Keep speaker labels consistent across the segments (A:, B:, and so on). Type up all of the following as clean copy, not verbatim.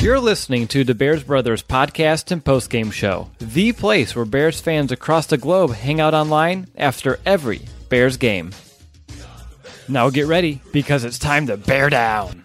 A: You're listening to the Bears Brothers podcast and postgame show, the place where Bears fans across the globe hang out online after every Bears game. Now get ready, because it's time to bear down.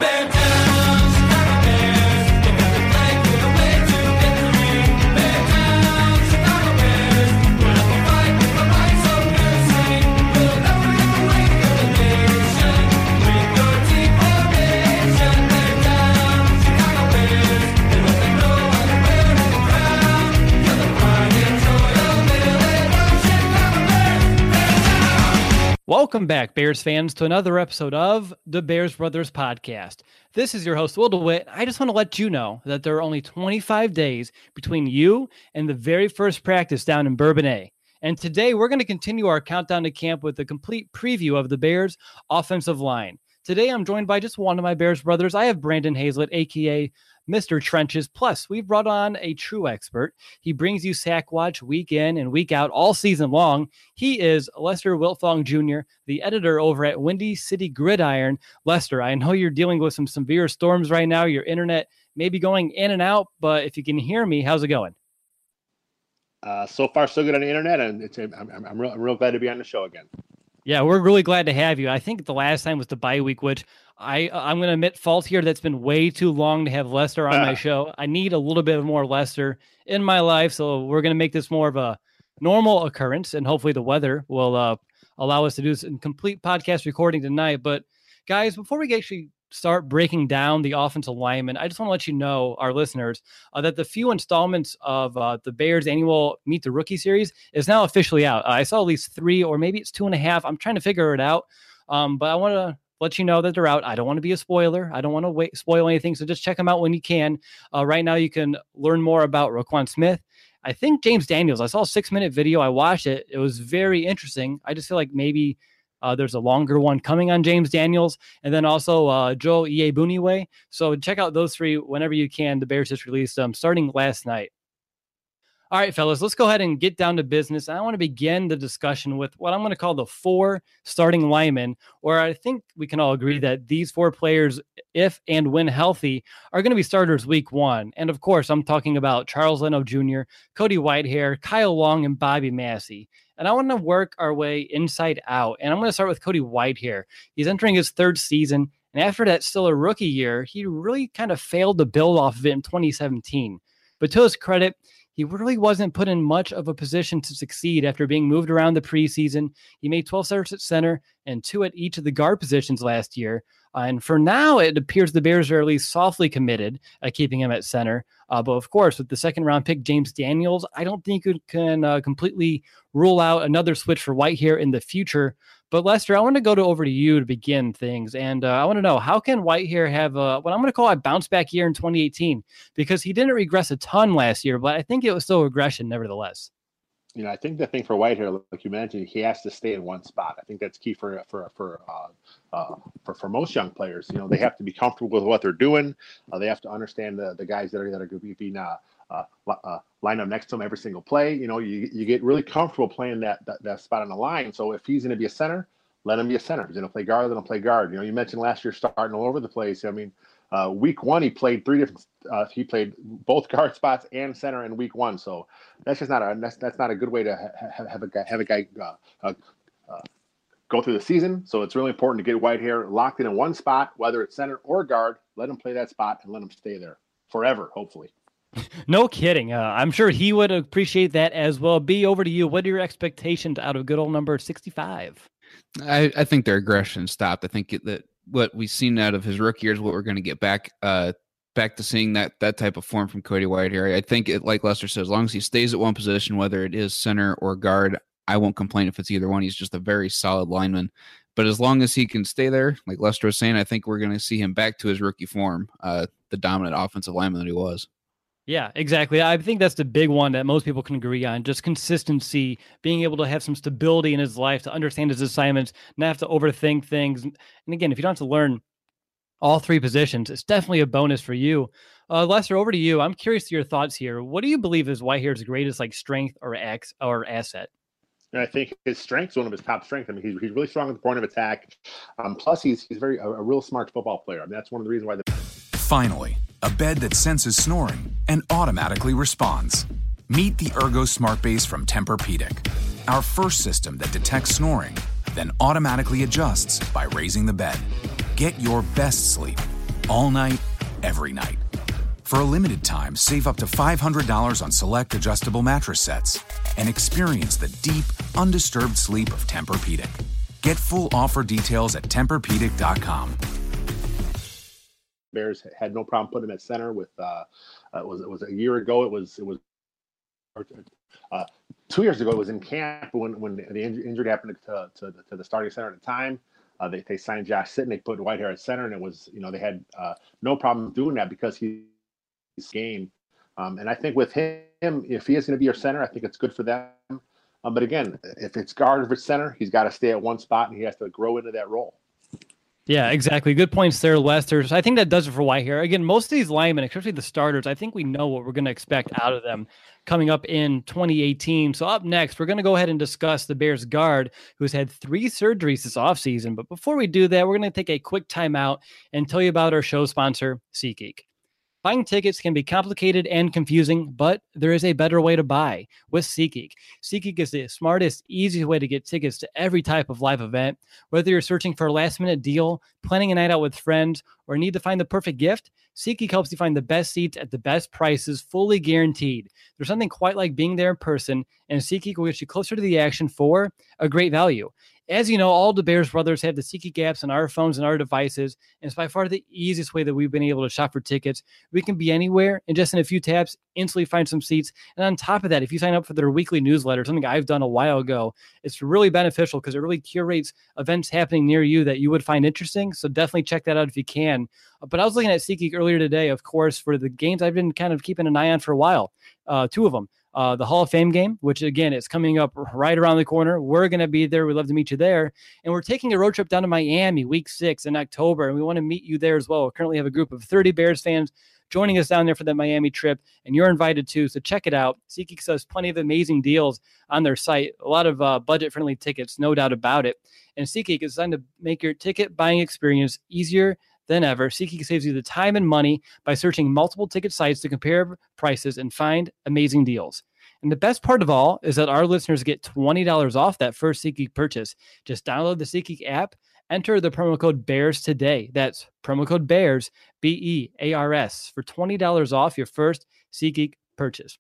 A: Welcome back, Bears fans, to another episode of the Bears Brothers podcast. This is your host, Will DeWitt. I just want to let you know that there are only 25 days between you and the very first practice down in Bourbonnais. And today we're going to continue our countdown to camp with a complete preview of the Bears' offensive line. Today I'm joined by just one of my Bears brothers. I have Brandon Hazlett, a.k.a. Mr. Trenches. Plus, we've brought on a true expert. He brings you Sack Watch week in and week out all season long. He is Lester Wiltfong Jr., the editor over at Windy City Gridiron. Lester, I know you're dealing with some severe storms right now. Your internet may be going in and out, but if you can hear me, how's it going?
B: So far, so good on the internet, and I'm real glad to be on the show again.
A: Yeah, we're really glad to have you. I think the last time was the bye week, which I'm going to admit fault here. That's been way too long to have Lester on my show. I need a little bit more Lester in my life, so we're going to make this more of a normal occurrence, and hopefully the weather will allow us to do some complete podcast recording tonight. But guys, before we actually start breaking down the offensive linemen, I just want to let you know, our listeners, that the few installments of the Bears annual Meet the Rookie series is now officially out. I saw at least 3, or maybe it's 2.5. I'm trying to figure it out. But I want to let you know that they're out. I don't want to be a spoiler. I don't want to spoil anything. So just check them out when you can. Right now, you can learn more about Roquan Smith. I think James Daniels. I saw a 6-minute video. I watched it. It was very interesting. I just feel like maybe there's a longer one coming on James Daniels, and then also Joe Iyiegbuniwe. So check out those 3 whenever you can. The Bears just released them starting last night. All right, fellas, let's go ahead and get down to business. I want to begin the discussion with what I'm going to call the 4 starting linemen, where I think we can all agree that these 4 players, if and when healthy, are going to be starters week 1. And of course, I'm talking about Charles Leno Jr., Cody Whitehair, Kyle Long, and Bobby Massey. And I want to work our way inside out. And I'm going to start with Cody Whitehair. He's entering his 3rd season. And after that still a rookie year, he really kind of failed to build off of it in 2017. But to his credit, he really wasn't put in much of a position to succeed after being moved around the preseason. He made 12 starts at center and 2 at each of the guard positions last year. And for now, it appears the Bears are at least softly committed at keeping him at center. But of course, with the 2nd-round pick, James Daniels, I don't think you can completely rule out another switch for Whitehair in the future. But Lester, I want to go over to you to begin things. And I want to know, how can Whitehair have what I'm going to call a bounce back year in 2018? Because he didn't regress a ton last year, but I think it was still regression nevertheless.
B: You know, I think the thing for Whitehair, like you mentioned, he has to stay in one spot. I think that's key for most young players. You know, they have to be comfortable with what they're doing. They have to understand the guys that are going to be being lined up next to him every single play. You know, you get really comfortable playing that spot on the line. So if he's going to be a center, let him be a center. If he's going to play guard, let him play guard. You know, you mentioned last year starting all over the place. I mean, week 1 he played 3 different. He played both guard spots and center in week 1. So that's just not a good way to have a guy go through the season. So it's really important to get Whitehair locked in one spot, whether it's center or guard. Let him play that spot and let him stay there forever, hopefully.
A: No kidding. I'm sure he would appreciate that as well. B, over to you. What are your expectations out of good old number 65?
C: I think their aggression stopped. I think that what we've seen out of his rookie year is what we're going to get back to seeing that type of form from Cody Whitehair. I think, like Lester said, as long as he stays at one position, whether it is center or guard, I won't complain if it's either one. He's just a very solid lineman. But as long as he can stay there, like Lester was saying, I think we're going to see him back to his rookie form, the dominant offensive lineman that he was.
A: Yeah, exactly. I think that's the big one that most people can agree on. Just consistency, being able to have some stability in his life, to understand his assignments, not have to overthink things. And again, if you don't have to learn all 3 positions, it's definitely a bonus for you. Lester, over to you. I'm curious to your thoughts here. What do you believe is Whitehair's greatest strength or asset?
B: And I think his strength is one of his top strengths. I mean, he's really strong at the point of attack. Plus, he's a real smart football player. I mean, that's one of the reasons why.
D: Finally, a bed that senses snoring and automatically responds. Meet the Ergo Smart Base from Tempur-Pedic, our first system that detects snoring, then automatically adjusts by raising the bed. Get your best sleep all night, every night. For a limited time, save up to $500 on select adjustable mattress sets and experience the deep, undisturbed sleep of Tempur-Pedic. Get full offer details at TempurPedic.com.
B: Bears had no problem putting him at center. With it was a year ago. It was 2 years ago. It was in camp when the injury happened to the starting center at the time. They signed Josh Sitton. They put Whitehair at center, and it was they had no problem doing that because he's game. And I think with him, if he is going to be your center, I think it's good for them. But again, if it's guard or center, he's got to stay at one spot and he has to grow into that role.
A: Yeah, exactly. Good points there, Lester. So I think that does it for Whitehair. Again, most of these linemen, especially the starters, I think we know what we're going to expect out of them coming up in 2018. So up next, we're going to go ahead and discuss the Bears guard who's had 3 surgeries this offseason. But before we do that, we're going to take a quick timeout and tell you about our show sponsor, SeatGeek. Buying tickets can be complicated and confusing, but there is a better way to buy with SeatGeek. SeatGeek is the smartest, easiest way to get tickets to every type of live event. Whether you're searching for a last-minute deal, planning a night out with friends, or need to find the perfect gift, SeatGeek helps you find the best seats at the best prices, fully guaranteed. There's something quite like being there in person, and SeatGeek will get you closer to the action for a great value. As you know, all the Bears brothers have the SeatGeek apps on our phones and our devices, and it's by far the easiest way that we've been able to shop for tickets. We can be anywhere, and just in a few taps, instantly find some seats. And on top of that, if you sign up for their weekly newsletter, something I've done a while ago, it's really beneficial because it really curates events happening near you that you would find interesting. So definitely check that out if you can. But I was looking at SeatGeek earlier today, of course, for the games I've been kind of keeping an eye on for a while. 2 of them. The Hall of Fame game, which again is coming up right around the corner. We're going to be there. We'd love to meet you there. And we're taking a road trip down to Miami week 6 in October. And we want to meet you there as well. We currently have a group of 30 Bears fans joining us down there for that Miami trip. And you're invited too. So check it out. SeatGeek has plenty of amazing deals on their site. A lot of budget-friendly tickets, no doubt about it. And SeatGeek is designed to make your ticket buying experience easier than ever. SeatGeek saves you the time and money by searching multiple ticket sites to compare prices and find amazing deals. And the best part of all is that our listeners get $20 off that first SeatGeek purchase. Just download the SeatGeek app, enter the promo code BEARS today. That's promo code BEARS, BEARS, for $20 off your first SeatGeek purchase.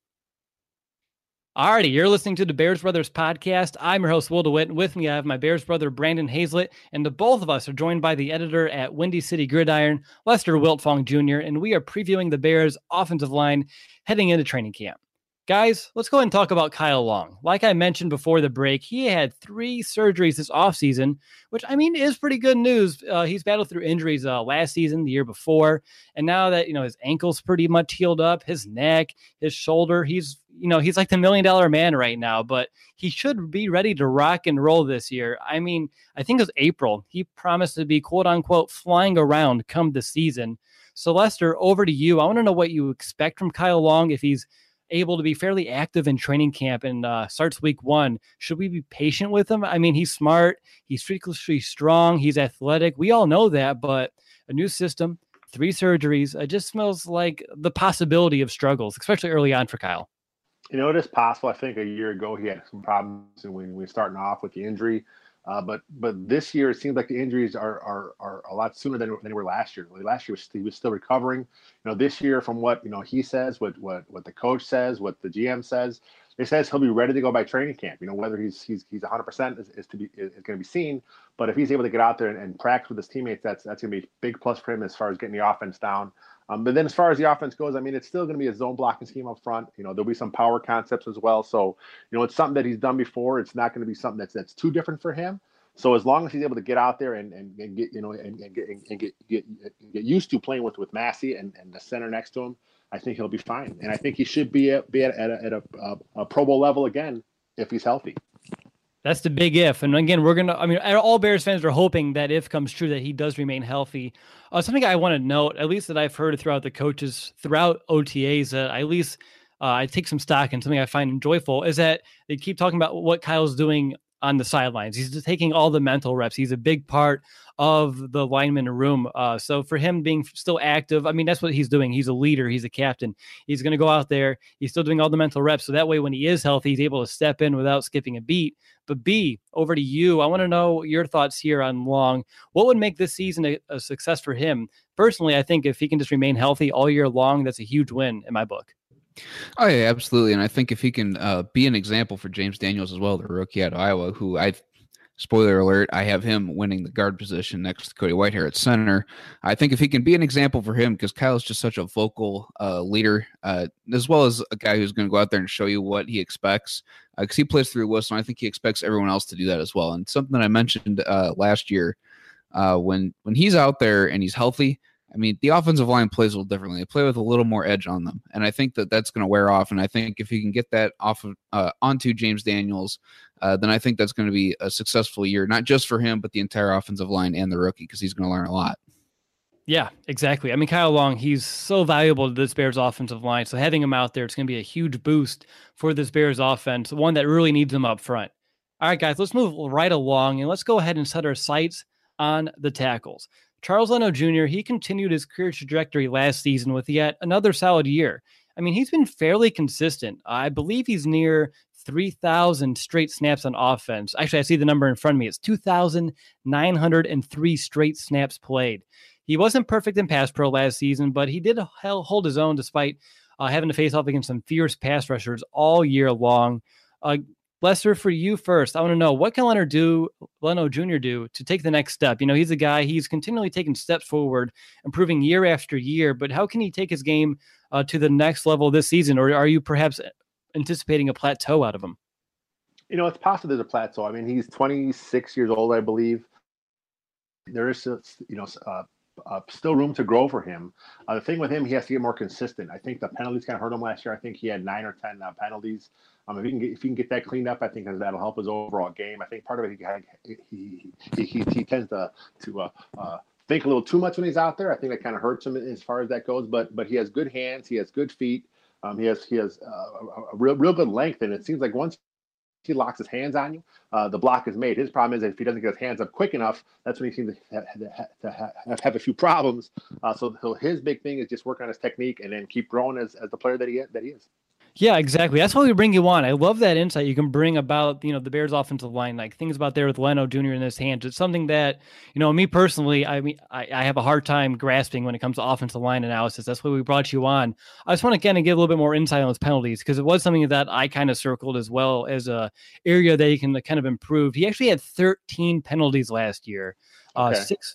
A: Alrighty, you're listening to the Bears Brothers podcast. I'm your host, Will DeWitt, and with me I have my Bears brother, Brandon Hazlett, and the both of us are joined by the editor at Windy City Gridiron, Lester Wiltfong Jr., and we are previewing the Bears' offensive line heading into training camp. Guys, let's go ahead and talk about Kyle Long. Like I mentioned before the break, he had 3 surgeries this offseason, which, I mean, is pretty good news. He's battled through injuries last season, the year before, and now that, his ankle's pretty much healed up, his neck, his shoulder, he's like the $1 million man right now, but he should be ready to rock and roll this year. I mean, I think it was April. He promised to be, quote unquote, flying around come the season. So, Lester, over to you. I want to know what you expect from Kyle Long if he's able to be fairly active in training camp and starts week 1. Should we be patient with him? I mean, he's smart. He's freakishly strong. He's athletic. We all know that, but a new system, 3 surgeries, it just smells like the possibility of struggles, especially early on for Kyle.
B: It is possible. I think a year ago he had some problems when we were starting off with the injury. But this year it seems like the injuries are a lot sooner than they were last year. Last year he was still recovering. This year, from what he says, what the coach says, what the GM says, it says he'll be ready to go by training camp. Whether he's 100% is going to be seen. But if he's able to get out there and practice with his teammates, that's going to be a big plus for him as far as getting the offense down. But then as far as the offense goes, I mean, it's still going to be a zone blocking scheme up front. There'll be some power concepts as well. So, it's something that he's done before. It's not going to be something that's too different for him. So as long as he's able to get out there and get get used to playing with Massey and the center next to him, I think he'll be fine. And I think he should be at a Pro Bowl level again if he's healthy.
A: That's the big if. And again, all Bears fans are hoping that if comes true that he does remain healthy. Something I want to note, at least that I've heard throughout the coaches, throughout OTAs, that at least I take some stock in, something I find joyful, is that they keep talking about what Kyle's doing on the sidelines. He's just taking all the mental reps. He's a big part of the lineman room. So for him being still active, I mean, that's what he's doing. He's a leader. He's a captain. He's going to go out there. He's still doing all the mental reps. So that way, when he is healthy, he's able to step in without skipping a beat. But B, over to you. I want to know your thoughts here on Long. What would make this season a success for him? Personally, I think if he can just remain healthy all year long, that's a huge win in my book.
C: Oh, yeah, absolutely. And I think if he can be an example for James Daniels as well, the rookie out of Iowa, who spoiler alert, I have him winning the guard position next to Cody Whitehair at center. I think if he can be an example for him, because Kyle's just such a vocal leader, as well as a guy who's going to go out there and show you what he expects, because he plays through the whistle, and I think he expects everyone else to do that as well. And something that I mentioned last year, when he's out there and he's healthy, I mean, the offensive line plays a little differently. They play with a little more edge on them, and I think that that's going to wear off. And I think if he can get that off of onto James Daniels, then I think that's going to be a successful year, not just for him, but the entire offensive line and the rookie, because he's going to learn a lot.
A: Yeah, exactly. I mean, Kyle Long, he's so valuable to this Bears offensive line. So having him out there, it's going to be a huge boost for this Bears offense, one that really needs him up front. All right, guys, let's move right along, and let's go ahead and set our sights on the tackles. Charles Leno Jr., he continued his career trajectory last season with yet another solid year. I mean, he's been fairly consistent. I believe he's near 3,000 straight snaps on offense. Actually, I see the number in front of me. It's 2,903 straight snaps played. He wasn't perfect in pass pro last season, but he did hold his own despite having to face off against some fierce pass rushers all year long. Lester, for you first, I want to know, what can Leno Jr. do to take the next step? You know, he's a guy, he's continually taking steps forward, improving year after year, but how can he take his game to the next level this season? Or are you perhaps anticipating a plateau out of him?
B: You know, it's possible there's a plateau. I mean, he's 26 years old, I believe. There is, still room to grow for him. The thing with him, he has to get more consistent. I think the penalties kind of hurt him last year. I think he had 9 or 10 penalties. If he can get that cleaned up, I think that'll help his overall game. I think part of it, he tends to think a little too much when he's out there. I think that kind of hurts him as far as that goes. But he has good hands. He has good feet. He has a real good length, and it seems like once he locks his hands on you, the block is made. His problem is if he doesn't get his hands up quick enough, that's when he seems to have a few problems. So his big thing is just work on his technique and then keep growing as the player that he is.
A: Yeah, exactly. That's why we bring you on. I love that insight you can bring about, the Bears offensive line, like things about there with Leno Jr. in his hands. It's something that, me personally, I mean, I have a hard time grasping when it comes to offensive line analysis. That's why we brought you on. I just want to kind of give a little bit more insight on those penalties, because it was something that I kind of circled as well as a area that he can kind of improve. He actually had 13 penalties last year.
B: Okay.
A: 6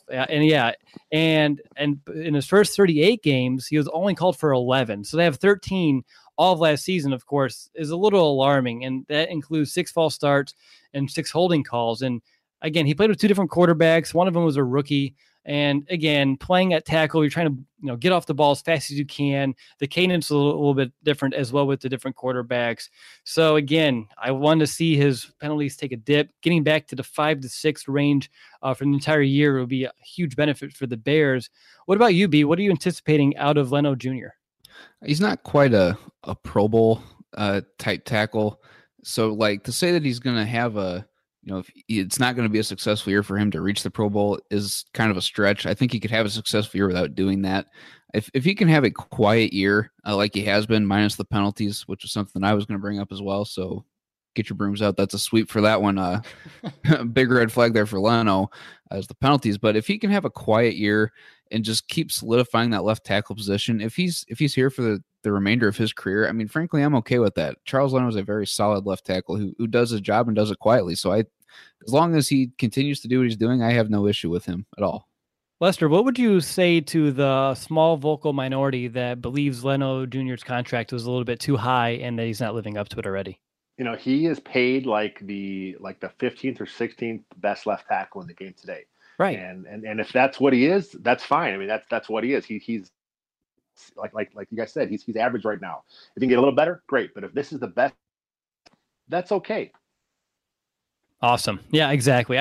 A: and in his first 38 games, he was only called for 11. So they have 13 all of last season, of course, is a little alarming. And that includes 6 false starts and 6 holding calls. And again, he played with 2 different quarterbacks. One of them was a rookie. And again, playing at tackle, you're trying to, get off the ball as fast as you can. The cadence is a little bit different as well with the different quarterbacks. So again, I wanted to see his penalties take a dip. Getting back to the 5 to 6 range for the entire year would be a huge benefit for the Bears. What about you, B? What are you anticipating out of Leno Jr.?
C: He's not quite a Pro Bowl type tackle. So like to say that he's going to have if it's not going to be a successful year for him to reach the Pro Bowl is kind of a stretch. I think he could have a successful year without doing that. If he can have a quiet year like he has been, minus the penalties, which is something I was going to bring up as well. So get your brooms out. That's a sweep for that one. Big red flag there for Leno as the penalties. But if he can have a quiet year and just keep solidifying that left tackle position, if he's here for the remainder of his career, I mean, frankly, I'm okay with that. Charles Leno is a very solid left tackle who does his job and does it quietly. So as long as he continues to do what he's doing, I have no issue with him at all.
A: Lester, what would you say to the small vocal minority that believes Leno Jr.'s contract was a little bit too high and that he's not living up to it already?
B: He is paid like the 15th or 16th best left tackle in the game today.
A: Right.
B: And if that's what he is, that's fine. I mean, that's what he is. He's like you guys said, he's average right now. If he can get a little better, great. But if this is the best, that's okay.
A: Awesome. Yeah, exactly.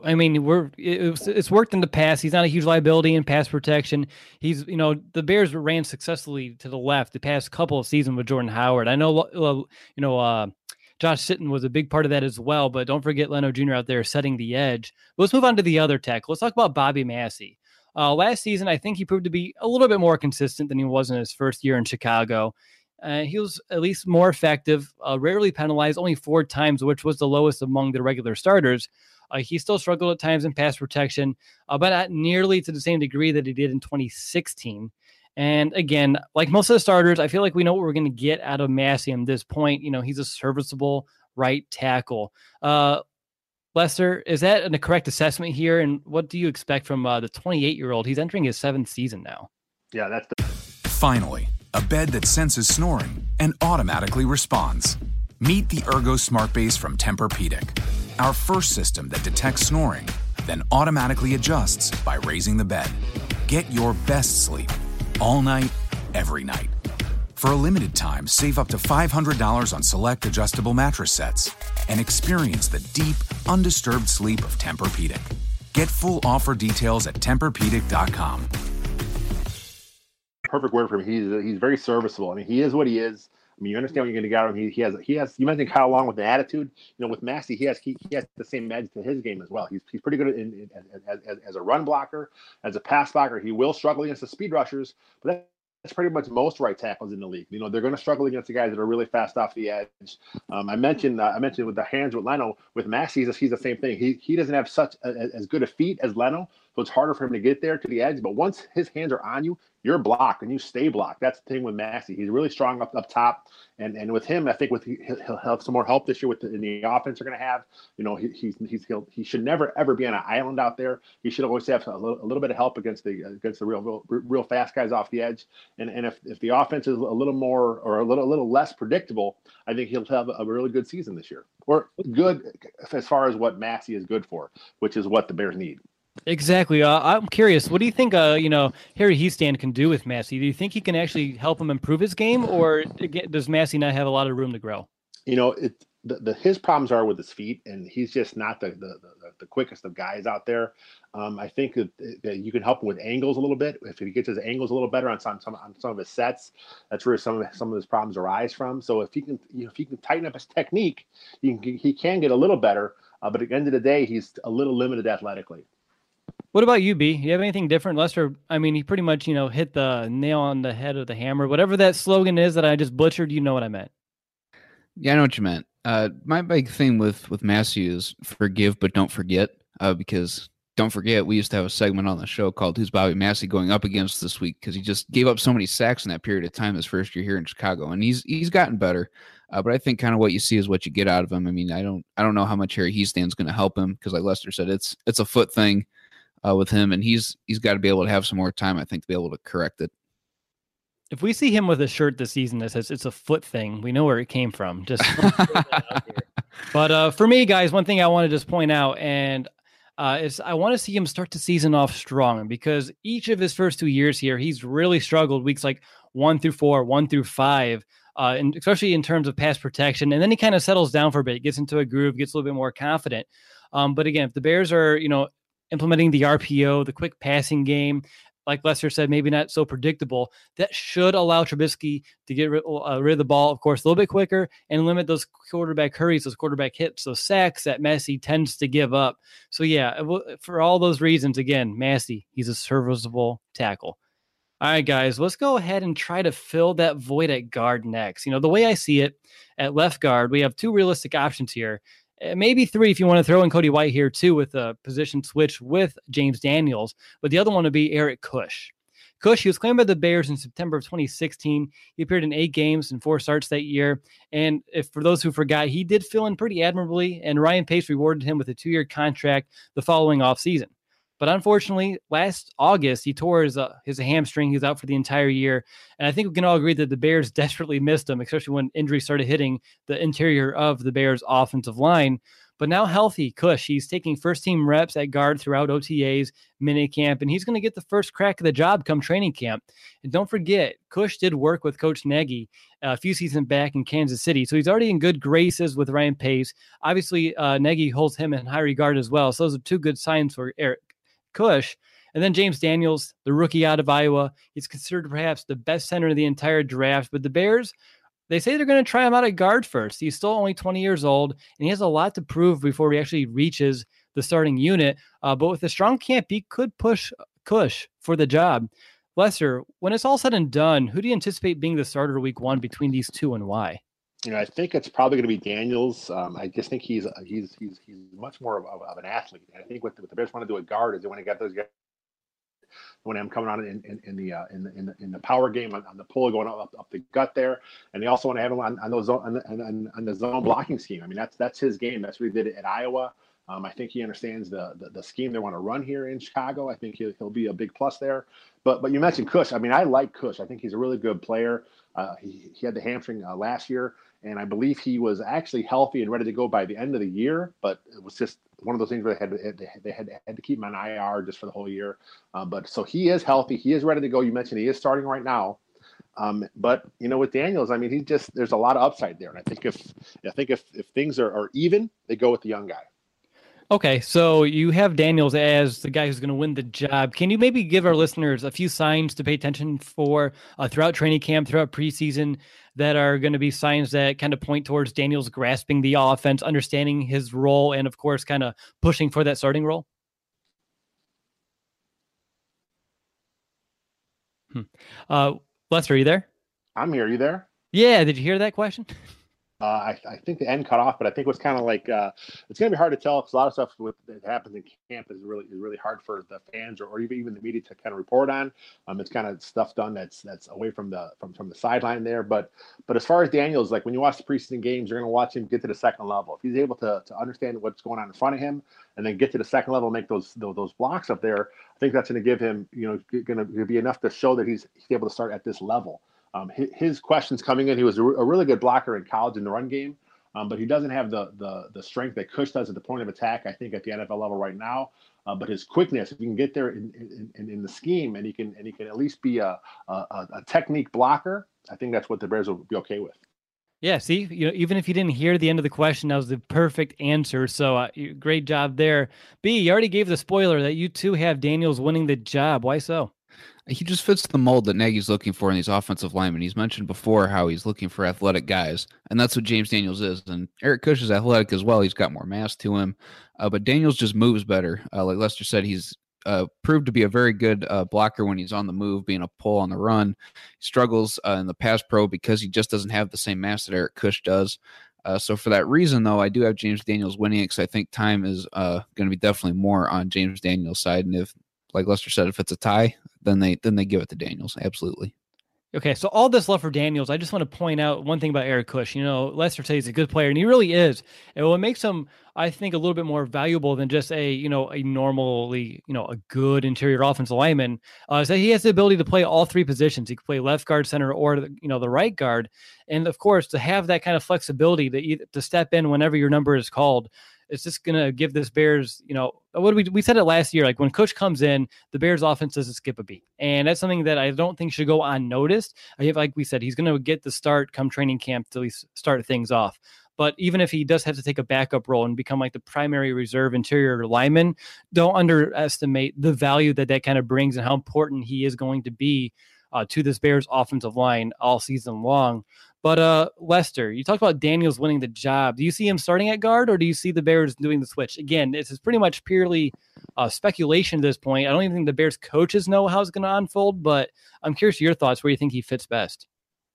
A: It's worked in the past. He's not a huge liability in pass protection. He's, the Bears ran successfully to the left the past couple of seasons with Jordan Howard. I know, Josh Sitton was a big part of that as well, but don't forget Leno Jr. out there setting the edge. But let's move on to the other tackle. Let's talk about Bobby Massey. Last season, I think he proved to be a little bit more consistent than he was in his first year in Chicago. He was at least more effective, rarely penalized, only 4 times, which was the lowest among the regular starters. He still struggled at times in pass protection, but not nearly to the same degree that he did in 2016. And again, like most of the starters, I feel like we know what we're going to get out of Massey at this point. He's a serviceable right tackle. Lester, is that a correct assessment here? And what do you expect from the 28-year-old? He's entering his 7th season now.
B: Yeah, that's
D: Finally, a bed that senses snoring and automatically responds. Meet the Ergo Smart Base from Tempur-Pedic, our first system that detects snoring, then automatically adjusts by raising the bed. Get your best sleep all night, every night. For a limited time, save up to $500 on select adjustable mattress sets and experience the deep, undisturbed sleep of Tempur-Pedic. Get full offer details at TempurPedic.com.
B: perfect word for him. He's very serviceable. I mean, he is what he is. I mean, you understand what you're going to get out of him. He has. You mentioned Kyle Long with the attitude. With Massey, he has the same edge to his game as well. He's pretty good as a run blocker, as a pass blocker. He will struggle against the speed rushers, but that's pretty much most right tackles in the league. They're going to struggle against the guys that are really fast off the edge. I mentioned with the hands with Leno. With Massey, he's the same thing. He doesn't have such as good a feet as Leno, so it's harder for him to get there to the edge. But once his hands are on you, you're blocked and you stay blocked. That's the thing with Massey. He's really strong up top, and with him, I think he'll have some more help this year in the offense they're going to have. He should never ever be on an island out there. He should always have a little bit of help against the real fast guys off the edge. And if the offense is a little more or a little less predictable, I think he'll have a really good season this year, or good as far as what Massey is good for, which is what the Bears need.
A: Exactly. I'm curious. What do you think, Harry Hiestand can do with Massey? Do you think he can actually help him improve his game, or does Massey not have a lot of room to grow?
B: His problems are with his feet, and he's just not the quickest of guys out there. I think that you can help him with angles a little bit. If he gets his angles a little better on some of his sets, that's where some of his problems arise from. So if he can tighten up his technique, he can get a little better. But at the end of the day, he's a little limited athletically.
A: What about you, B? You have anything different? Lester, I mean, he pretty much, hit the nail on the head of the hammer. Whatever that slogan is that I just butchered, you know what I meant.
C: Yeah, I know what you meant. My big thing with Massey is forgive but don't forget, because don't forget, we used to have a segment on the show called Who's Bobby Massey Going Up Against this week, because he just gave up so many sacks in that period of time his first year here in Chicago, and he's gotten better. But I think kind of what you see is what you get out of him. I mean, I don't know how much Harry Hiestand's going to help him, because like Lester said, it's a foot thing with him, and he's got to be able to have some more time, I think, to be able to correct it.
A: If we see him with a shirt this season that says it's a foot thing, we know where it came from. Just But for me, guys, one thing I want to just point out, and is I want to see him start the season off strong, because each of his first 2 years here, he's really struggled weeks like 1 through 4, 1 through 5, and especially in terms of pass protection. And then he kind of settles down for a bit, gets into a groove, gets a little bit more confident. But again, if the Bears are, implementing the RPO, the quick passing game, like Lester said, maybe not so predictable, that should allow Trubisky to get rid of the ball, of course, a little bit quicker and limit those quarterback hurries, those quarterback hits, those sacks that Massey tends to give up. So, yeah, for all those reasons, again, Massey, he's a serviceable tackle. All right, guys, let's go ahead and try to fill that void at guard next. The way I see it, at left guard, we have 2 realistic options here. Maybe 3 if you want to throw in Cody White here too, with a position switch with James Daniels. But the other one would be Eric Kush. Kush, he was claimed by the Bears in September of 2016. He appeared in 8 games and 4 starts that year. And if for those who forgot, he did fill in pretty admirably, and Ryan Pace rewarded him with a 2-year contract the following offseason. But unfortunately, last August, he tore his hamstring. He was out for the entire year. And I think we can all agree that the Bears desperately missed him, especially when injuries started hitting the interior of the Bears' offensive line. But now healthy, Kush, he's taking first-team reps at guard throughout OTAs, minicamp, and he's going to get the first crack of the job come training camp. And don't forget, Kush did work with Coach Nagy a few seasons back in Kansas City, so he's already in good graces with Ryan Pace. Obviously, Nagy holds him in high regard as well, so those are 2 good signs for Eric Kush. And then James Daniels, the rookie out of Iowa. He's considered perhaps the best center of the entire draft, but the Bears They say they're going to try him out at guard first. He's still only 20 years old, and he has a lot to prove before he actually reaches the starting unit. But with a strong camp, he could push Kush for the job. Lester, when it's all said and done, who do you anticipate being the starter week 1 between these two, and why?
B: I think it's probably going to be Daniels. I just think he's much more of an athlete. And I think what the Bears want to do at guard is they want to get those guys when I'm coming on in the power game on the pull going up the gut there, and they also want to have him on those on the zone blocking scheme. I mean that's his game. That's what he did at Iowa. I think he understands the scheme they want to run here in Chicago. I think he'll be a big plus there. But you mentioned Kush. I mean, I like Kush. I think he's a really good player. He had the hamstring last year, and I believe he was actually healthy and ready to go by the end of the year. But it was just one of those things where they had to keep him on IR just for the whole year. But so he is healthy. He is ready to go. You mentioned he is starting right now. But with Daniels, I mean, there's a lot of upside there. And I think if things are even, they go with the young guy.
A: Okay, so you have Daniels as the guy who's going to win the job. Can you maybe give our listeners a few signs to pay attention for throughout training camp, throughout preseason, that are going to be signs that kind of point towards Daniels grasping the offense, understanding his role, and of course, kind of pushing for that starting role? Lester, are you there?
B: I'm here. Are you there?
A: Yeah. Did you hear that question?
B: I think the end cut off, but I think it was kind of like it's going to be hard to tell because a lot of stuff that happens in camp is really hard for the fans or even the media to kind of report on. It's kind of stuff done that's away from the sideline there. But as far as Daniels, like when you watch the preseason games, you're going to watch him get to the second level. If he's able to understand what's going on in front of him and then get to the second level and make those blocks up there, I think that's going to give him going to be enough to show that he's able to start at this level. His questions coming in, he was a really good blocker in college in the run game, but he doesn't have the strength that Kush does at the point of attack, I think, at the NFL level right now. But his quickness, if he can get there in the scheme and he can at least be a technique blocker, I think that's what the Bears will be okay with.
A: Yeah, see, even if you didn't hear the end of the question, that was the perfect answer. So great job there. B, you already gave the spoiler that you too have Daniels winning the job. Why so?
C: He just fits the mold that Nagy's looking for in these offensive linemen. He's mentioned before how he's looking for athletic guys, and that's what James Daniels is. And Eric Kush is athletic as well. He's got more mass to him, but Daniels just moves better. Like Lester said, he's proved to be a very good blocker when he's on the move, being a pull on the run. He struggles in the pass pro because he just doesn't have the same mass that Eric Kush does. So for that reason, though, I do have James Daniels winning it because I think time is going to be definitely more on James Daniels' side. And if, like Lester said, if it's a tie, then they give it to Daniels. Absolutely.
A: Okay, so all this love for Daniels, I just want to point out one thing about Eric Kush. Lester says he's a good player, and he really is. And what makes him, I think, a little bit more valuable than just a normally, a good interior offensive lineman, is that he has the ability to play all three positions. He can play left guard, center, or the right guard. And of course, to have that kind of flexibility to step in whenever your number is called, it's just going to give this Bears, what we said it last year, like when Kush comes in, the Bears offense doesn't skip a beat. And that's something that I don't think should go unnoticed. Like we said, he's going to get the start come training camp to at least start things off. But even if he does have to take a backup role and become like the primary reserve interior lineman, don't underestimate the value that kind of brings and how important he is going to be to this Bears offensive line all season long. But Lester, you talked about Daniels winning the job. Do you see him starting at guard, or do you see the Bears doing the switch? Again, this is pretty much purely speculation at this point. I don't even think the Bears coaches know how it's going to unfold, but I'm curious your thoughts where you think he fits best.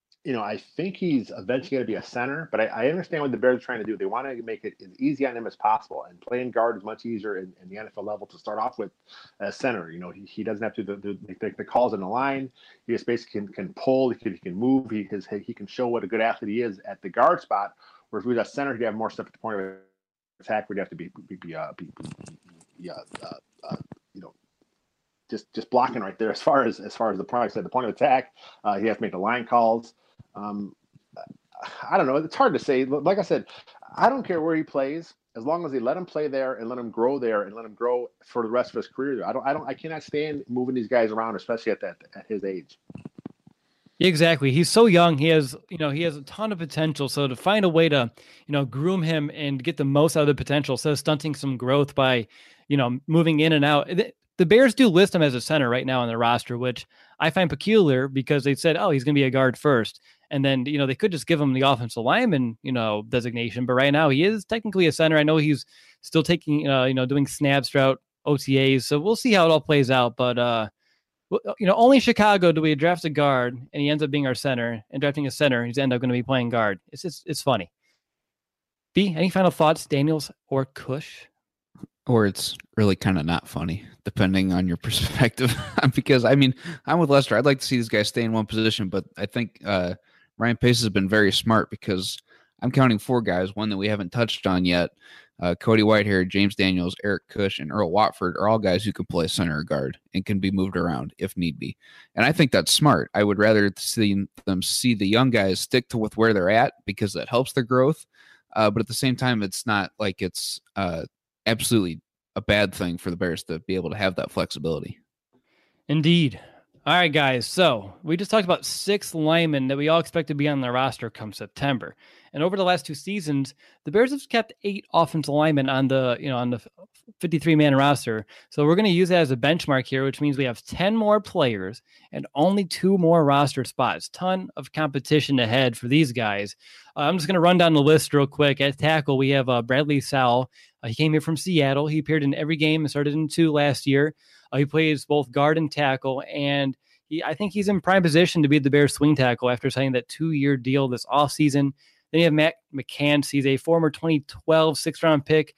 B: I think he's eventually going to be a center, but I understand what the Bears are trying to do. They want to make it as easy on him as possible, and playing guard is much easier in the NFL level to start off with as center. He doesn't have to make the calls in the line. He just basically can pull. He can move. He can show what a good athlete he is at the guard spot. Whereas with a center, he'd have more stuff at the point of attack. We'd have to be just blocking right there as far as the product at the point of attack. He has to make the line calls. I don't know. It's hard to say. Like I said, I don't care where he plays as long as they let him play there and let him grow there and let him grow for the rest of his career. I cannot stand moving these guys around, especially at his age.
A: Exactly. He's so young. He has a ton of potential. So to find a way to, groom him and get the most out of the potential, instead of stunting some growth by, moving in and out. The Bears do list him as a center right now on their roster, which I find peculiar because they said, oh, he's going to be a guard first. And then, they could just give him the offensive lineman, designation. But right now he is technically a center. I know he's still taking, doing snaps throughout OTAs. So we'll see how it all plays out. But, only in Chicago do we draft a guard and he ends up being our center, and drafting a center, he's end up going to be playing guard. It's funny. B, any final thoughts, Daniels or Cush?
C: Or it's really kind of not funny, depending on your perspective. Because, I mean, I'm with Lester. I'd like to see these guys stay in one position, but I think Ryan Pace has been very smart, because I'm counting 4 guys, one that we haven't touched on yet. Cody Whitehair, James Daniels, Eric Cush, and Earl Watford are all guys who can play center or guard and can be moved around if need be. And I think that's smart. I would rather see the young guys stick to with where they're at, because that helps their growth. But at the same time, it's not like it's absolutely a bad thing for the Bears to be able to have that flexibility.
A: Indeed. All right, guys. So we just talked about 6 linemen that we all expect to be on the roster come September. And over the last 2 seasons, the Bears have kept 8 offensive linemen on the 53-man roster. So we're going to use that as a benchmark here, which means we have 10 more players and only 2 more roster spots. Ton of competition ahead for these guys. I'm just going to run down the list real quick. At tackle, we have Bradley Sowell. He came here from Seattle. He appeared in every game and started in 2 last year. He plays both guard and tackle, and I think he's in prime position to be the Bears swing tackle after signing that 2-year deal this offseason. Then you have Matt McCants. He's a former 2012 6th-round pick,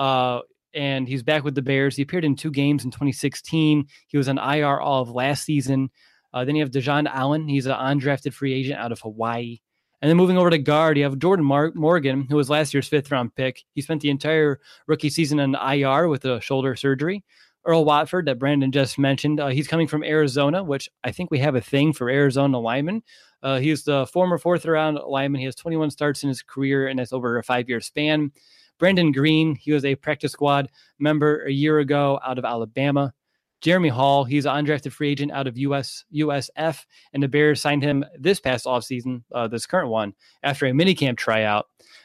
A: and he's back with the Bears. He appeared in 2 games in 2016. He was on IR all of last season. Then you have Dejon Allen. He's an undrafted free agent out of Hawaii. And then moving over to guard, you have Jordan Morgan, who was last year's 5th-round pick. He spent the entire rookie season on IR with a shoulder surgery. Earl Watford, that Brandon just mentioned, he's coming from Arizona, which I think we have a thing for Arizona linemen. He's the former 4th-round lineman. He has 21 starts in his career, and that's over a 5-year span. Brandon Green, he was a practice squad member a year ago out of Alabama. Jeremy Hall, he's an undrafted free agent out of USF, and the Bears signed him this past offseason, this current one, after a minicamp tryout.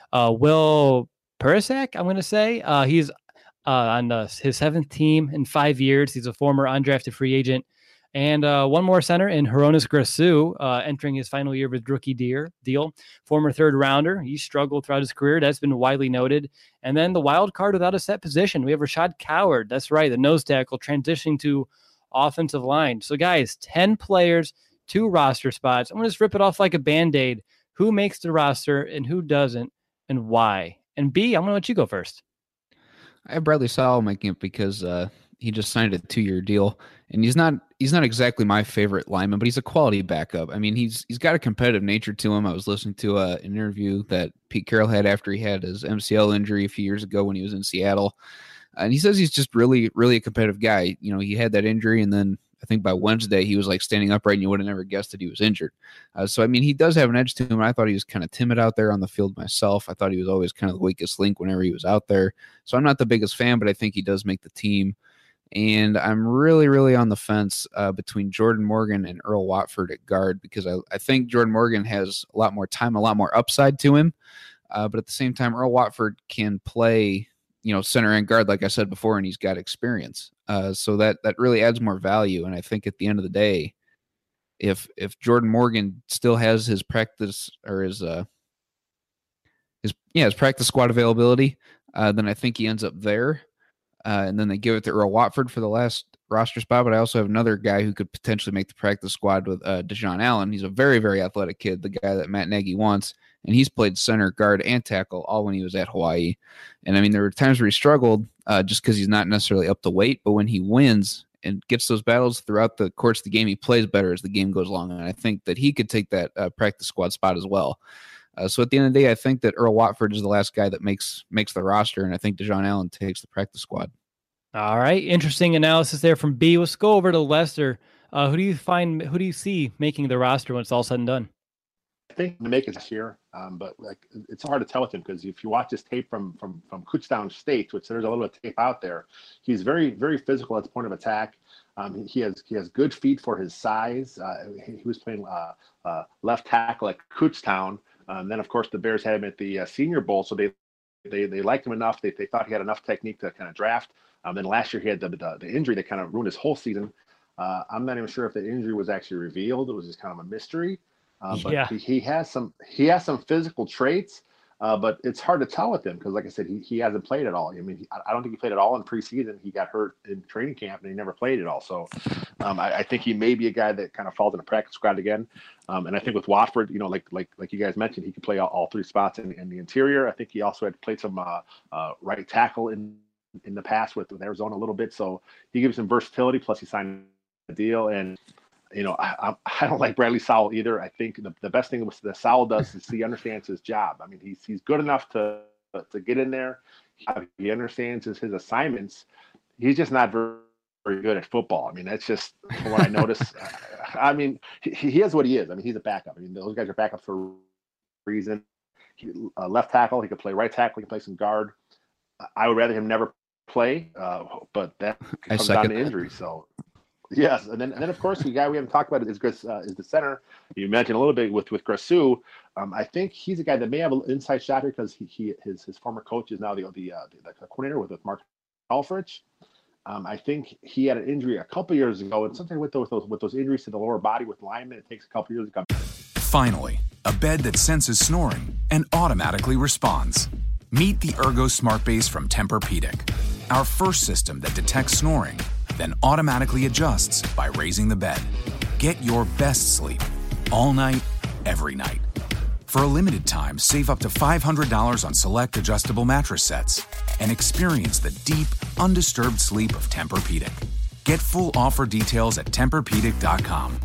A: Will Perisic, I'm going to say, he's on his 7th team in 5 years. He's a former undrafted free agent. And one more center in Hronis Grasu, entering his final year with rookie deal. Former 3rd rounder. He struggled throughout his career. That's been widely noted. And then the wild card without a set position. We have Rashad Coward. That's right, the nose tackle, transitioning to offensive line. So, guys, 10 players, 2 roster spots. I'm going to just rip it off like a Band-Aid. Who makes the roster and who doesn't, and why? And B, I'm going to let you go first.
C: I have Bradley Sowell making it because he just signed a 2-year deal, and he's not exactly my favorite lineman, but he's a quality backup. I mean, he's got a competitive nature to him. I was listening to an interview that Pete Carroll had after he had his MCL injury a few years ago when he was in Seattle, and he says he's just really, really a competitive guy. You know, he had that injury, and then I think by Wednesday he was like standing upright, and you would have never guessed that he was injured. So, I mean, he does have an edge to him. I thought he was kind of timid out there on the field myself. I thought he was always kind of the weakest link whenever he was out there. So I'm not the biggest fan, but I think he does make the team. And I'm really, really on the fence between Jordan Morgan and Earl Watford at guard, because I think Jordan Morgan has a lot more time, a lot more upside to him. But at the same time, Earl Watford can play, center and guard, like I said before, and he's got experience. So that really adds more value. And I think at the end of the day, if Jordan Morgan still has his practice or his practice squad availability, then I think he ends up there. And then they give it to Earl Watford for the last roster spot. But I also have another guy who could potentially make the practice squad with Dejon Allen. He's a very, very athletic kid, the guy that Matt Nagy wants. And he's played center, guard, and tackle all when he was at Hawaii. And, I mean, there were times where he struggled just because he's not necessarily up to weight. But when he wins and gets those battles throughout the course of the game, he plays better as the game goes along. And I think that he could take that practice squad spot as well. So at the end of the day, I think that Earl Watford is the last guy that makes the roster, and I think Dejon Allen takes the practice squad.
A: All right, interesting analysis there from B. Let's go over to Lester. Who do you see making the roster when it's all said and done?
B: I think to make it this year, but like it's hard to tell with him because if you watch his tape from Kutztown State, which there's a little bit of tape out there, he's very, very physical at the point of attack. He has good feet for his size. He was playing left tackle at Kutztown. Then, of course, the Bears had him at the Senior Bowl, so they liked him enough. They thought he had enough technique to kind of draft. Then last year he had the injury that kind of ruined his whole season. I'm not even sure if the injury was actually revealed. It was just kind of a mystery. But
A: Yeah.
B: he has some physical traits, but it's hard to tell with him because, like I said, he hasn't played at all. I mean, I don't think he played at all in preseason. He got hurt in training camp and he never played at all. So I think he may be a guy that kind of falls in a practice squad again. And I think with Watford, like you guys mentioned, he could play all three spots in the interior. I think he also had played some right tackle in the past with Arizona a little bit. So he gives him versatility. Plus, he signed a deal and. I don't like Bradley Sowell either. I think the best thing that Sowell does is he understands his job. I mean, he's good enough to get in there. He understands his assignments. He's just not very good at football. I mean, that's just from what I notice. I mean, he is what he is. I mean, he's a backup. I mean, those guys are backups for a reason. Left tackle, he could play right tackle. He can play some guard. I would rather him never play, but that comes down to injury. So. Yes, and then of course the guy we haven't talked about is the center. You mentioned a little bit with Grasu. I think he's a guy that may have an inside shot here because his former coach is now the coordinator with Mark Alfrich. I think he had an injury a couple years ago, and something with those injuries to the lower body with linemen, it takes a couple years to come.
D: Finally, a bed that senses snoring and automatically responds. Meet the Ergo Smart Base from Tempur-Pedic, our first system that detects snoring, then automatically adjusts by raising the bed. Get your best sleep all night, every night. For a limited time, save up to $500 on select adjustable mattress sets and experience the deep, undisturbed sleep of Tempur-Pedic. Get full offer details at TempurPedic.com.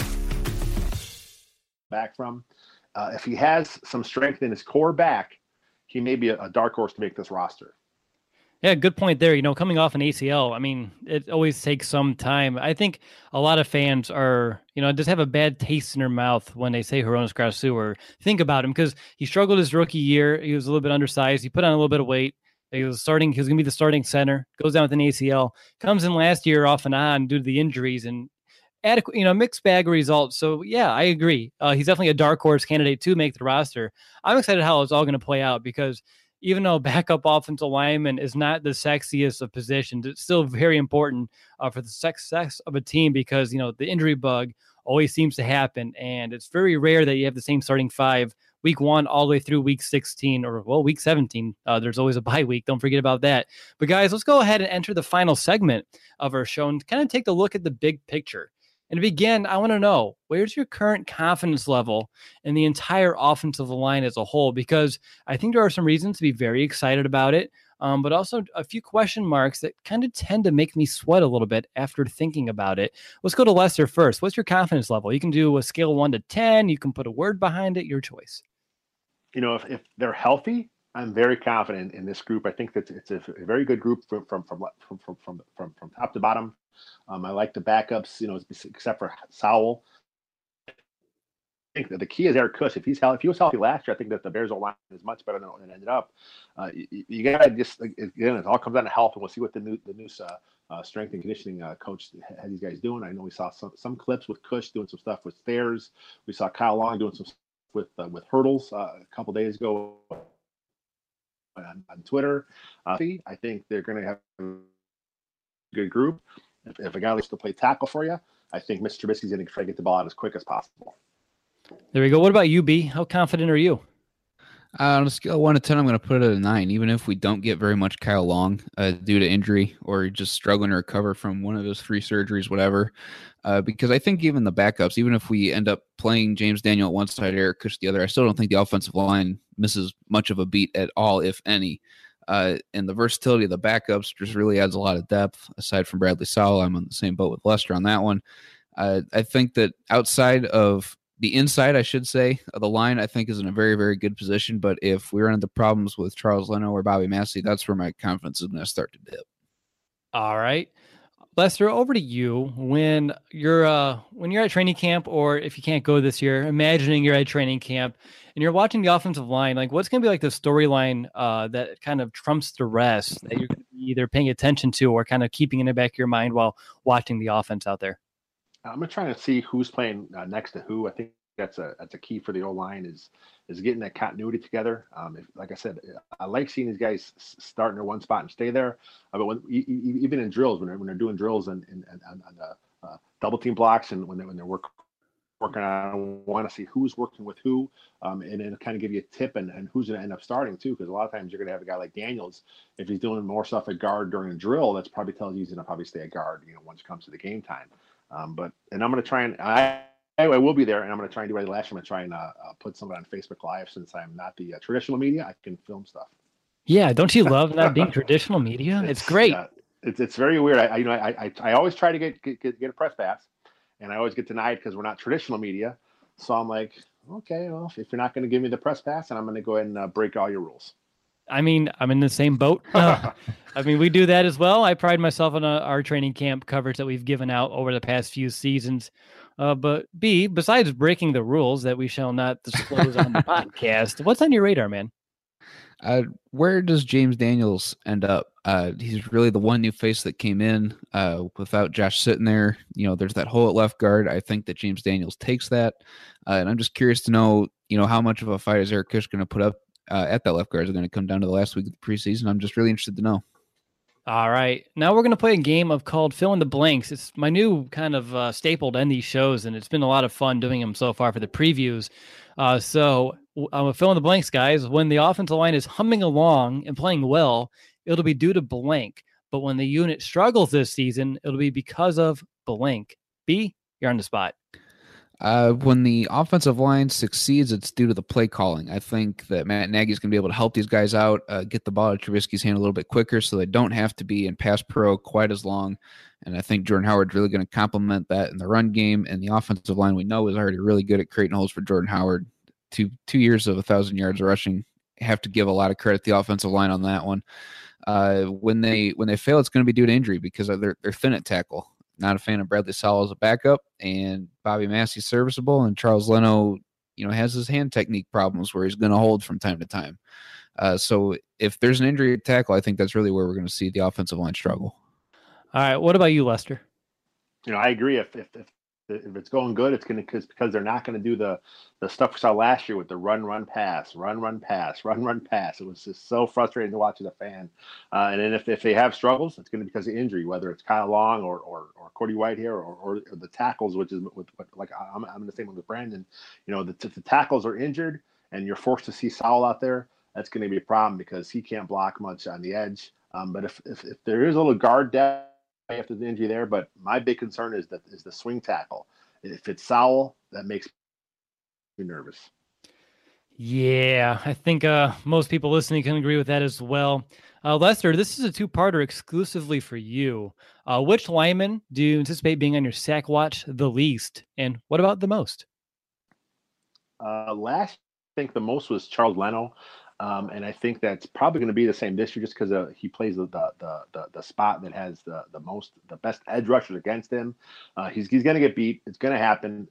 B: Back from, if he has some strength in his core back, he may be a dark horse to make this roster.
A: Yeah, good point there. Coming off an ACL, I mean, it always takes some time. I think a lot of fans are, just have a bad taste in their mouth when they say Hroniss Grasu or think about him because he struggled his rookie year. He was a little bit undersized. He put on a little bit of weight. He was going to be the starting center, goes down with an ACL, comes in last year off and on due to the injuries and adequate, mixed bag of results. So yeah, I agree. He's definitely a dark horse candidate to make the roster. I'm excited how it's all going to play out because even though backup offensive lineman is not the sexiest of positions, it's still very important for the success of a team because, the injury bug always seems to happen. And it's very rare that you have the same starting five week 1 all the way through week 16 or week 17. There's always a bye week. Don't forget about that. But guys, let's go ahead and enter the final segment of our show and kind of take a look at the big picture. And to begin, I want to know, where's your current confidence level in the entire offensive line as a whole? Because I think there are some reasons to be very excited about it, but also a few question marks that kind of tend to make me sweat a little bit after thinking about it. Let's go to Lester first. What's your confidence level? You can do a scale 1 to 10. You can put a word behind it, your choice.
B: If they're healthy, I'm very confident in this group. I think that it's a very good group from top to bottom. I like the backups, except for Sowell. I think that the key is Eric Kush. If he was healthy last year, I think that the Bears' line is much better than it ended up. You got to just, again, it all comes down to health, and we'll see what the new strength and conditioning coach had these guys doing. I know we saw some clips with Kush doing some stuff with stairs. We saw Kyle Long doing some stuff with hurdles a couple days ago on Twitter. I think they're going to have a good group. If a guy likes to play tackle for you, I think Mr. Trubisky's going to try to get the ball out as quick as possible.
A: There we go. What about you, B? How confident are you?
C: On a scale of 1 to 10, I'm going to put it at a 9, even if we don't get very much Kyle Long due to injury or just struggling to recover from one of his 3 surgeries, whatever. Because I think even the backups, even if we end up playing James Daniel at one side, Eric Kush the other, I still don't think the offensive line misses much of a beat at all, if any. And the versatility of the backups just really adds a lot of depth. Aside from Bradley Sowell, I'm on the same boat with Lester on that one. I think that outside of the inside, I should say, of the line, I think is in a very, very good position. But if we run into problems with Charles Leno or Bobby Massey, that's where my confidence is going to start to dip.
A: All right. Lester, over to you. When you're at training camp, or if you can't go this year, imagining you're at training camp and you're watching the offensive line, like what's going to be like the storyline that kind of trumps the rest that you're going to be either paying attention to or kind of keeping in the back of your mind while watching the offense out there?
B: I'm trying to see who's playing next to who. I think that's a key for the O-line is getting that continuity together. Like I said, I like seeing these guys start in their one spot and stay there. But even in drills, when they're doing drills and double team blocks and when they're working working on. I want to see who's working with who, and then kind of give you a tip and who's going to end up starting too. Because a lot of times you're going to have a guy like Daniels, if he's doing more stuff at guard during a drill, that's probably tells you he's going to probably stay at guard, once it comes to the game time. And I'm going to try and I will be there, and I'm going to try and do what I did last year. I'm going to try and put something on Facebook Live since I'm not the traditional media. I can film stuff.
A: Yeah, don't you love not being traditional media? It's great.
B: It's very weird. I always try to get a press pass, and I always get denied because we're not traditional media. So I'm like, okay, well, if you're not going to give me the press pass, then I'm going to go ahead and break all your rules.
A: I mean, I'm in the same boat. I mean, we do that as well. I pride myself on our training camp coverage that we've given out over the past few seasons. But B, besides breaking the rules that we shall not disclose on the podcast, what's on your radar, man?
C: Where does James Daniels end up? He's really the one new face that came in without Josh sitting there. There's that hole at left guard. I think that James Daniels takes that. And I'm just curious to know, how much of a fight is Eric Kish going to put up at that left guard? Is it going to come down to the last week of the preseason? I'm just really interested to know.
A: All right. Now we're going to play a game called Fill in the Blanks. It's my new kind of staple to end these shows, and it's been a lot of fun doing them so far for the previews. So I'm going to fill in the blanks, guys. When the offensive line is humming along and playing well, it'll be due to blank. But when the unit struggles this season, it'll be because of blank. B, you're on the spot.
C: When the offensive line succeeds, it's due to the play calling. I think that Matt Nagy's going to be able to help these guys out, get the ball at Trubisky's hand a little bit quicker so they don't have to be in pass pro quite as long. And I think Jordan Howard's really going to complement that in the run game. And the offensive line we know is already really good at creating holes for Jordan Howard. Two years of 1,000 yards rushing. Have to give a lot of credit to the offensive line on that one. When they fail, it's going to be due to injury because they're thin at tackle. Not a fan of Bradley Sowell as a backup, and Bobby Massey's serviceable, and Charles Leno, has his hand technique problems where he's going to hold from time to time. So if there's an injury at tackle, I think that's really where we're going to see the offensive line struggle.
A: All right. What about you, Lester?
B: I agree. If it's going good, it's going to because they're not going to do the stuff we saw last year with the run, pass. It was just so frustrating to watch as a fan. And then if they have struggles, it's going to be because of injury, whether it's Kyle Long or Cody Whitehair or the tackles, which is like I'm in the same one with Brandon. If the tackles are injured and you're forced to see Sowell out there, that's going to be a problem because he can't block much on the edge. But if there is a little guard depth after the injury there, but my big concern is the swing tackle. If it's Sowell, that makes me nervous.
A: Yeah, I think most people listening can agree with that as well. Lester, this is a two-parter exclusively for you. Which lineman do you anticipate being on your sack watch the least, and what about the most?
B: Last, I think the most was Charles Leno. And I think that's probably going to be the same this year, just because he plays the spot that has the best edge rushers against him. He's going to get beat. It's going to happen.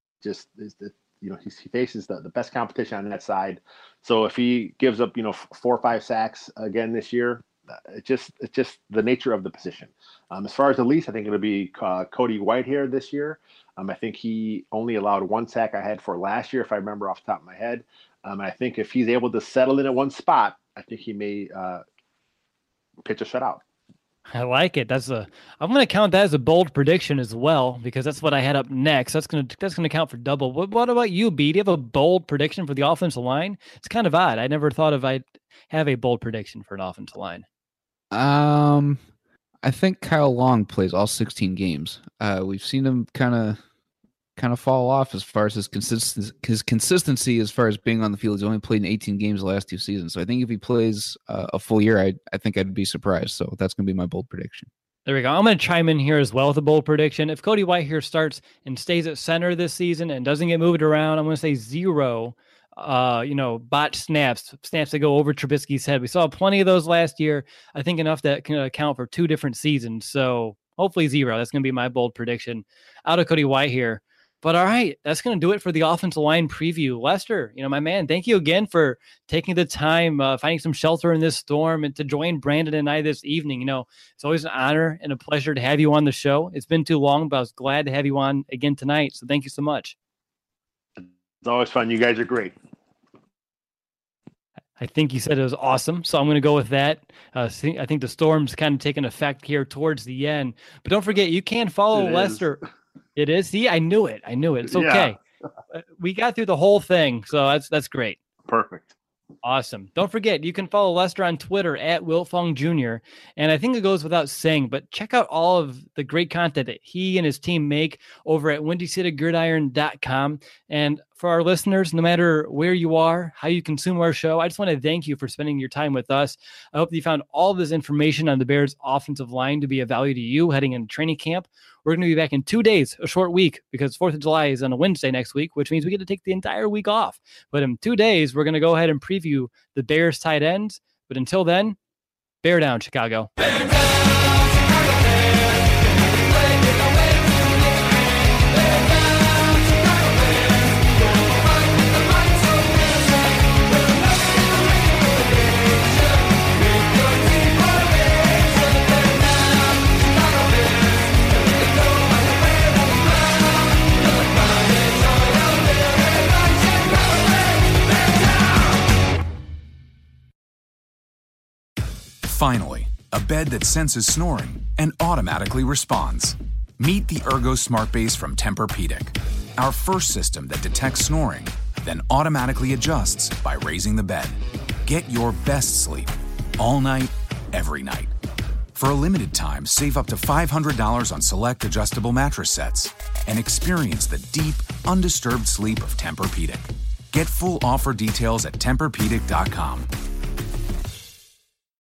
B: He faces the best competition on that side. So if he gives up 4 or 5 sacks again this year, it's just the nature of the position. As far as the least, I think it'll be Cody Whitehair this year. I think he only allowed 1 sack I had for last year, if I remember off the top of my head. I think if he's able to settle in at one spot, I think he may pitch a shutout.
A: I like it. I'm going to count that as a bold prediction as well, because that's what I had up next. That's going to count for double. What about you, B? Do you have a bold prediction for the offensive line? It's kind of odd. I never thought I'd have a bold prediction for an offensive line.
C: I think Kyle Long plays all 16 games. We've seen him kind of fall off as far as his consistency as far as being on the field. He's only played in 18 games the last 2 seasons. So I think if he plays a full year, I think I'd be surprised. So that's going to be my bold prediction.
A: There we go. I'm going to chime in here as well with a bold prediction. If Cody Whitehair starts and stays at center this season and doesn't get moved around, I'm going to say 0 botched snaps that go over Trubisky's head. We saw plenty of those last year. I think enough that can account for 2 different seasons. So hopefully 0. That's going to be my bold prediction out of Cody Whitehair. But all right, that's going to do it for the offensive line preview. Lester, my man, thank you again for taking the time, finding some shelter in this storm, and to join Brandon and I this evening. It's always an honor and a pleasure to have you on the show. It's been too long, but I was glad to have you on again tonight. So thank you so much.
B: It's always fun. You guys are great.
A: I think you said it was awesome, so I'm going to go with that. I think the storm's kind of taking effect here towards the end. But don't forget, you can follow Lester. It is. See, I knew it. It's okay. We got through the whole thing, so that's great.
B: Perfect.
A: Awesome. Don't forget, you can follow Lester on Twitter at Wiltfong Jr. And I think it goes without saying, but check out all of the great content that he and his team make over at WindyCityGridiron.com. And for our listeners, no matter where you are, how you consume our show, I just want to thank you for spending your time with us. I hope that you found all of this information on the Bears offensive line to be of value to you heading into training camp. We're going to be back in 2 days, a short week, because 4th of July is on a Wednesday next week, which means we get to take the entire week off. But in 2 days, we're going to go ahead and preview the Bears tight ends. But until then, bear down, Chicago.
E: Bear down, Chicago Bears.
D: Finally, a bed that senses snoring and automatically responds. Meet the Ergo Smart Base from Tempur-Pedic, our first system that detects snoring, then automatically adjusts by raising the bed. Get your best sleep all night, every night. For a limited time, save up to $500 on select adjustable mattress sets and experience the deep, undisturbed sleep of Tempur-Pedic. Get full offer details at TempurPedic.com.